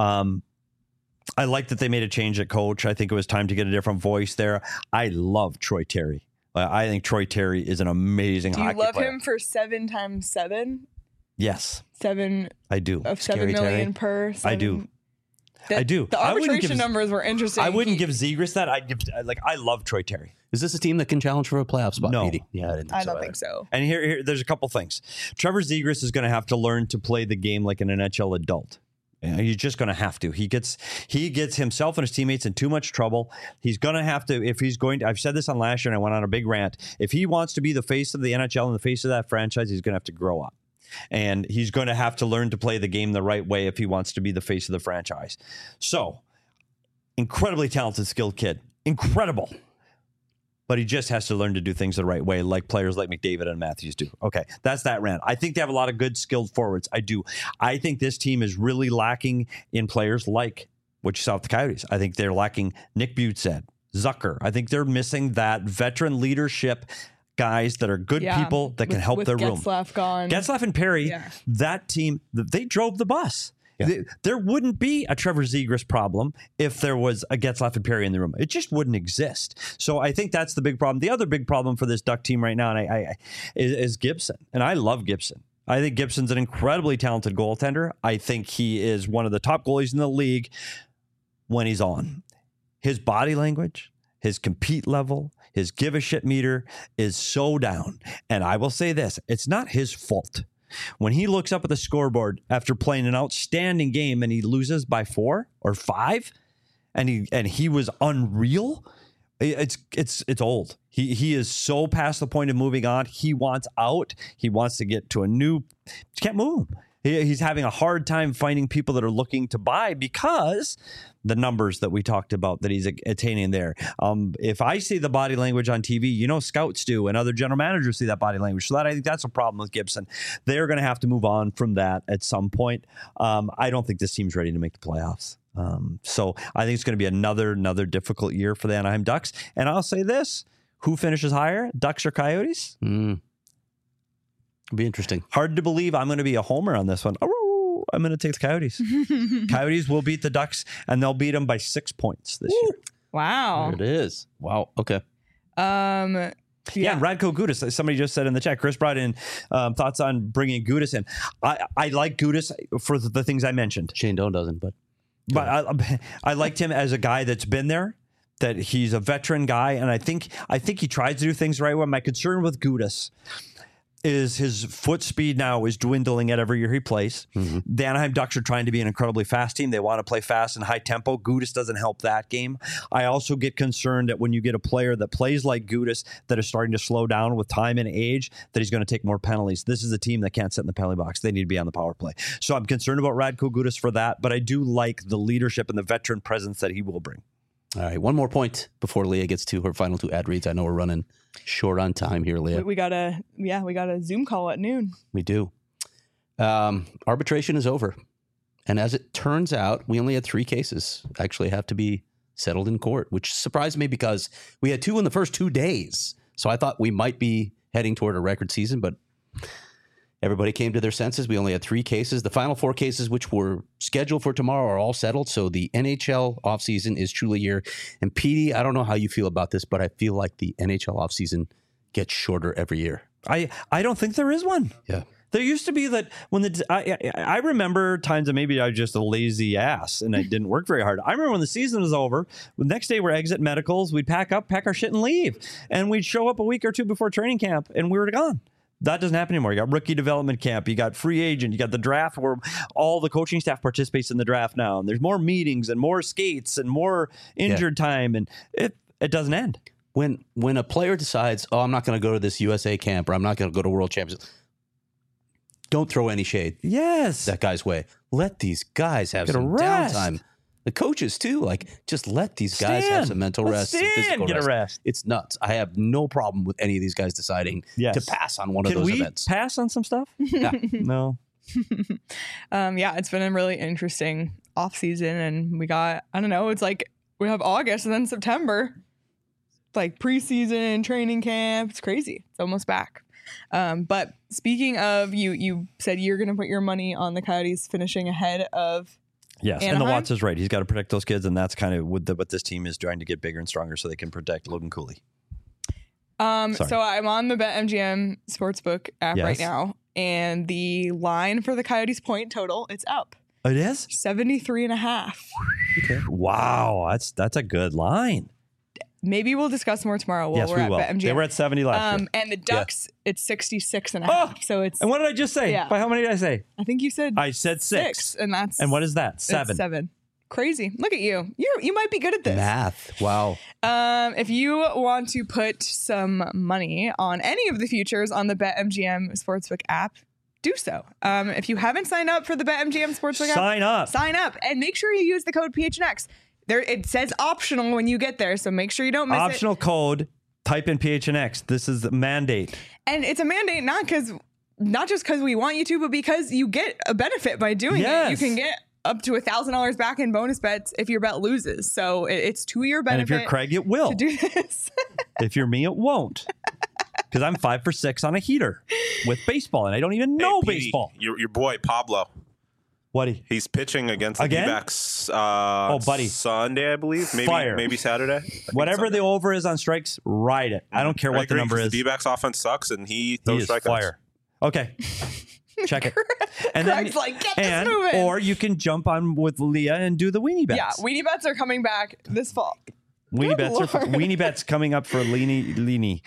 I like that they made a change at coach. I think it was time to get a different voice there. I love Troy Terry. I think Troy Terry is an amazing Do you hockey love player. him for 7 times 7? Yes, 7 I do. of Scary 7 million Terry. per. I do. I do. The I wouldn't arbitration give- numbers were interesting. I wouldn't give Zegras that. I'd give I love Troy Terry. Is this a team that can challenge for a playoff spot, No. Petey? Yeah, I didn't think I so don't either. think so. And here there's a couple things. Trevor Zegras is going to have to learn to play the game like an NHL adult. He's just going to have to. He gets himself and his teammates in too much trouble. He's going to have to, if he's going to, I've said this on last year and I went on a big rant. If he wants to be the face of the NHL and the face of that franchise, he's going to have to grow up. And he's going to have to learn to play the game the right way if he wants to be the face of the franchise. So, incredibly talented, skilled kid. Incredible. But he just has to learn to do things the right way, like players like McDavid and Matthews do. Okay, that's that rant. I think they have a lot of good, skilled forwards. I do. I think this team is really lacking in players like what you saw with the Coyotes. I think they're lacking Nick Butzead, Zucker. I think they're missing that veteran leadership guys that are good people that can help their room. Getzlaf gone. Getzlaf and Perry, that team, they drove the bus. Yeah. There wouldn't be a Trevor Zegras problem if there was a Getzlaf and Perry in the room. It just wouldn't exist. So I think that's the big problem. The other big problem for this Duck team right now is Gibson. And I love Gibson. I think Gibson's an incredibly talented goaltender. I think he is one of the top goalies in the league when he's on. His body language, his compete level, his give a shit meter is so down. And I will say this, it's not his fault. When he looks up at the scoreboard after playing an outstanding game and he loses by 4 or 5 and he was unreal, it's old. He is so past the point of moving on. He wants out. He wants to get to a new, he can't move. He's having a hard time finding people that are looking to buy because the numbers that we talked about that he's attaining there. If I see the body language on TV, scouts do, and other general managers see that body language. So I think that's a problem with Gibson. They're going to have to move on from that at some point. I don't think this team's ready to make the playoffs. So I think it's going to be another difficult year for the Anaheim Ducks. And I'll say this, who finishes higher, Ducks or Coyotes? It'll be interesting. Hard to believe I'm going to be a homer on this one. I'm going to take the Coyotes. Coyotes will beat the Ducks, and they'll beat them by 6 points this year. Wow. There it is. Wow. Okay. Yeah, Radko Gudas. Somebody just said in the chat, Chris brought in thoughts on bringing Gudas in. I like Gudas for the things I mentioned. Shane Doan doesn't, but I liked him as a guy that's been there, that he's a veteran guy, and I think he tries to do things the right way. My concern with Gudas is his foot speed now is dwindling at every year he plays. Mm-hmm. The Anaheim Ducks are trying to be an incredibly fast team. They want to play fast and high tempo. Gudas doesn't help that game. I also get concerned that when you get a player that plays like Gudas that is starting to slow down with time and age, that he's going to take more penalties. This is a team that can't sit in the penalty box. They need to be on the power play. So I'm concerned about Radko Gudas for that, but I do like the leadership and the veteran presence that he will bring. All right, one more point before Leah gets to her final 2 ad reads. I know we're running short on time here, Leah. We got a Zoom call at noon. We do. Arbitration is over. And as it turns out, we only had 3 cases actually have to be settled in court, which surprised me because we had 2 in the first 2 days. So I thought we might be heading toward a record season, but everybody came to their senses. We only had 3 cases. The final 4 cases, which were scheduled for tomorrow, are all settled. So the NHL offseason is truly here. And Petey, I don't know how you feel about this, but I feel like the NHL offseason gets shorter every year. I don't think there is one. Yeah. There used to be that when I remember times that maybe I was just a lazy ass and I didn't work very hard. I remember when the season was over, the next day we're exit medicals, we'd pack our shit and leave. And we'd show up a week or 2 before training camp and we were gone. That doesn't happen anymore. You got rookie development camp, you got free agent, you got the draft where all the coaching staff participates in the draft now. And there's more meetings and more skates and more injured time. And it doesn't end. When a player decides, I'm not going to go to this USA camp or I'm not going to go to World Championships, don't throw any shade. Yes. That guy's way. Let these guys have some downtime. The coaches too, just let these guys have some mental rest, some physical get rest. a rest. It's nuts. I have no problem with any of these guys deciding to pass on one of those events. Can we pass on some stuff? Yeah. No. It's been a really interesting off season, and we got, I don't know, it's like we have August and then September, like preseason, training camp. It's crazy. It's almost back. But speaking of, you said you're going to put your money on the Coyotes finishing ahead of Yes, Anaheim? and the Watts is right. He's got to protect those kids, and that's kind of what this team is trying to get bigger and stronger so they can protect Logan Cooley. So I'm on the BetMGM Sportsbook app right now, and the line for the Coyotes point total, it's up. It is? 73.5. Okay. Wow, that's a good line. Maybe we'll discuss more tomorrow while Yes, we're we at will. BetMGM. They were at 70 last year. And the Ducks, it's 66.5. Oh, so it's, and what did I just say? Yeah. By how many did I say? I think you said I said 6. and that's, And what is that? 7. it's 7. Crazy. Look at you. You might be good at this. Math. Wow. If you want to put some money on any of the futures on the BetMGM Sportsbook app, do so. If you haven't signed up for the BetMGM Sportsbook app, sign up and make sure you use the code PHNX. There, it says optional when you get there, so make sure you don't miss it. Optional code, type in PHNX. This is the mandate. And it's a mandate not just because we want you to, but because you get a benefit by doing it. You can get up to $1,000 back in bonus bets if your bet loses. So it's to your benefit. And if you're Craig, it will. To do this. If you're me, it won't. Because I'm 5 for 6 on a heater with baseball, and I don't even know baseball. Your boy Pablo. What? He's pitching against the D-backs buddy. Sunday, I believe. Maybe Saturday. Whatever the over is on strikes, ride it. I don't care what the number is. The D-backs offense sucks, and he throws strikeouts. Fire. Okay. Check it. And Craig's like, get this moving. Or you can jump on with Leah and do the weenie bets. Yeah, weenie bets are coming back this fall. Weenie bets coming up for Leanie.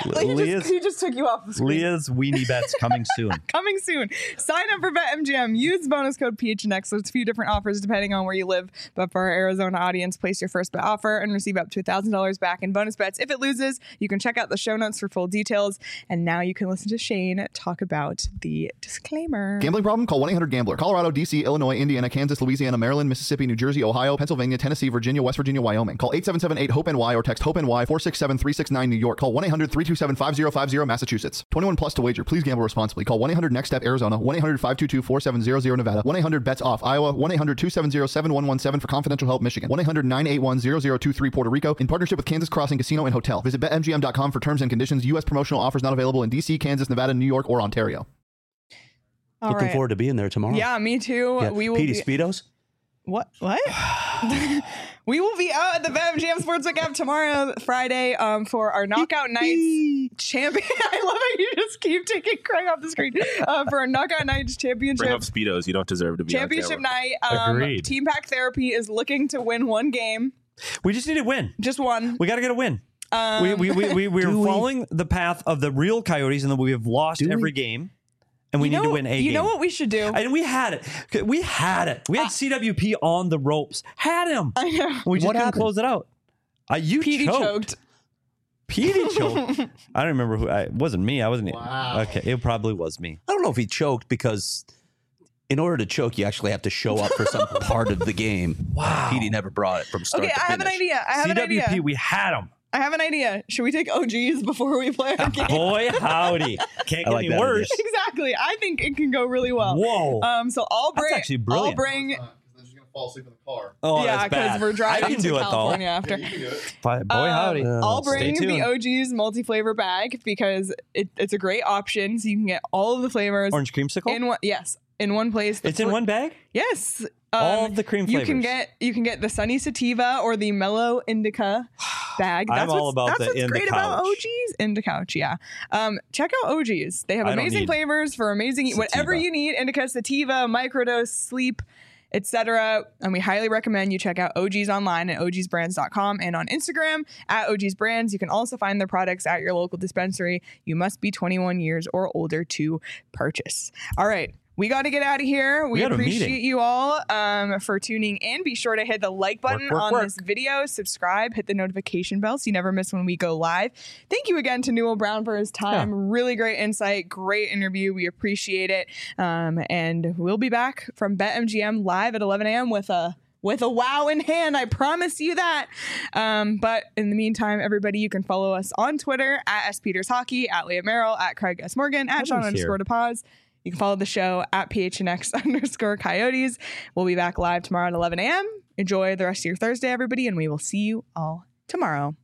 He just took you off the screen. Leah's weenie bets coming soon. Coming soon. Sign up for BetMGM. Use bonus code PHNX. There's a few different offers depending on where you live. But for our Arizona audience, place your first bet offer and receive up to $1,000 back in bonus bets. If it loses, you can check out the show notes for full details. And now you can listen to Shane talk about the disclaimer. Gambling problem? Call 1-800-GAMBLER. Colorado, D.C., Illinois, Indiana, Kansas, Louisiana, Maryland, Mississippi, New Jersey, Ohio, Pennsylvania, Tennessee, Virginia, West Virginia, Wyoming. Call 877-8-HOPE-NY or text HOPE-NY 467-369 New York. Call 1-800-327-5050 Massachusetts. 21 plus to wager. Please gamble responsibly. Call 1-800-NEXT-STEP Arizona. 1-800-522-4700 Nevada. 1-800-BETS-OFF Iowa. 1-800-270-7117 for confidential help Michigan. 1-800-981-0023 Puerto Rico. In partnership with Kansas Crossing Casino and Hotel. Visit BetMGM.com for terms and conditions. U.S. promotional offers not available in D.C., Kansas, Nevada, New York, or Ontario. Looking forward to being there tomorrow. Yeah, me too. Yeah. We will Petey Speedos? What? We will be out at the BetMGM Sportsbook app tomorrow, Friday, for our Knockout Nights champion. I love how you just keep taking Craig off the screen. For our Knockout Nights championship. Bring up Speedos. You don't deserve to be championship night. Agreed. Team Pack Therapy is looking to win one game. We just need to win. Just one. We got to get a win. We're following the path of the real Coyotes, and then we have lost every game. And we need to win a game. You know what we should do? And we had it. We had CWP on the ropes. Had him. I know. We just couldn't close it out. Petey choked. Petey choked. I don't remember who. It wasn't me. I wasn't. Wow. Okay. It probably was me. I don't know if he choked because in order to choke, you actually have to show up for some part of the game. Wow. Petey never brought it from start to finish. I have an idea. CWP, we had him. I have an idea. Should we take OGs before we play our game? Boy, howdy. Can't get any worse. Exactly. I think it can go really well. Whoa. So I'll bring. That's actually brilliant. I'll bring. fall asleep in the car. Oh, yeah, that's bad. because we're driving I can to do California it after. Yeah, you can do it. though. Boy, howdy. I'll Stay bring the tuned. OG's multi-flavor bag because it's a great option. So you can get all of the flavors Orange creamsicle. in one. Yes, in one place. It's in one bag. Yes. All of the cream You flavors. can get the Sunny Sativa or the Mellow Indica bag. I'm all about that's the what's great about Indicouch. OG's. Indicouch, yeah. Check out OG's. They have I don't amazing need flavors for amazing whatever sativa. you need. Indica, Sativa, microdose, sleep, etc. And we highly recommend you check out OG's online at ogsbrands.com and on Instagram at OG's Brands. You can also find their products at your local dispensary. You must be 21 years or older to purchase. All right. We got to get out of here. We got a appreciate meeting. you all for tuning in. Be sure to hit the like button on this video, subscribe, hit the notification bell so you never miss when we go live. Thank you again to Newell Brown for his time. Yeah. Really great insight, great interview. We appreciate it. And we'll be back from BetMGM live at 11 a.m. with a wow in hand. I promise you that. But in the meantime, everybody, you can follow us on Twitter at SPetersHockey, at Leah Merrill, at Craig S. Morgan, at Sean_DePaz. You can follow the show at PHNX_Coyotes. We'll be back live tomorrow at 11 a.m. Enjoy the rest of your Thursday, everybody, and we will see you all tomorrow.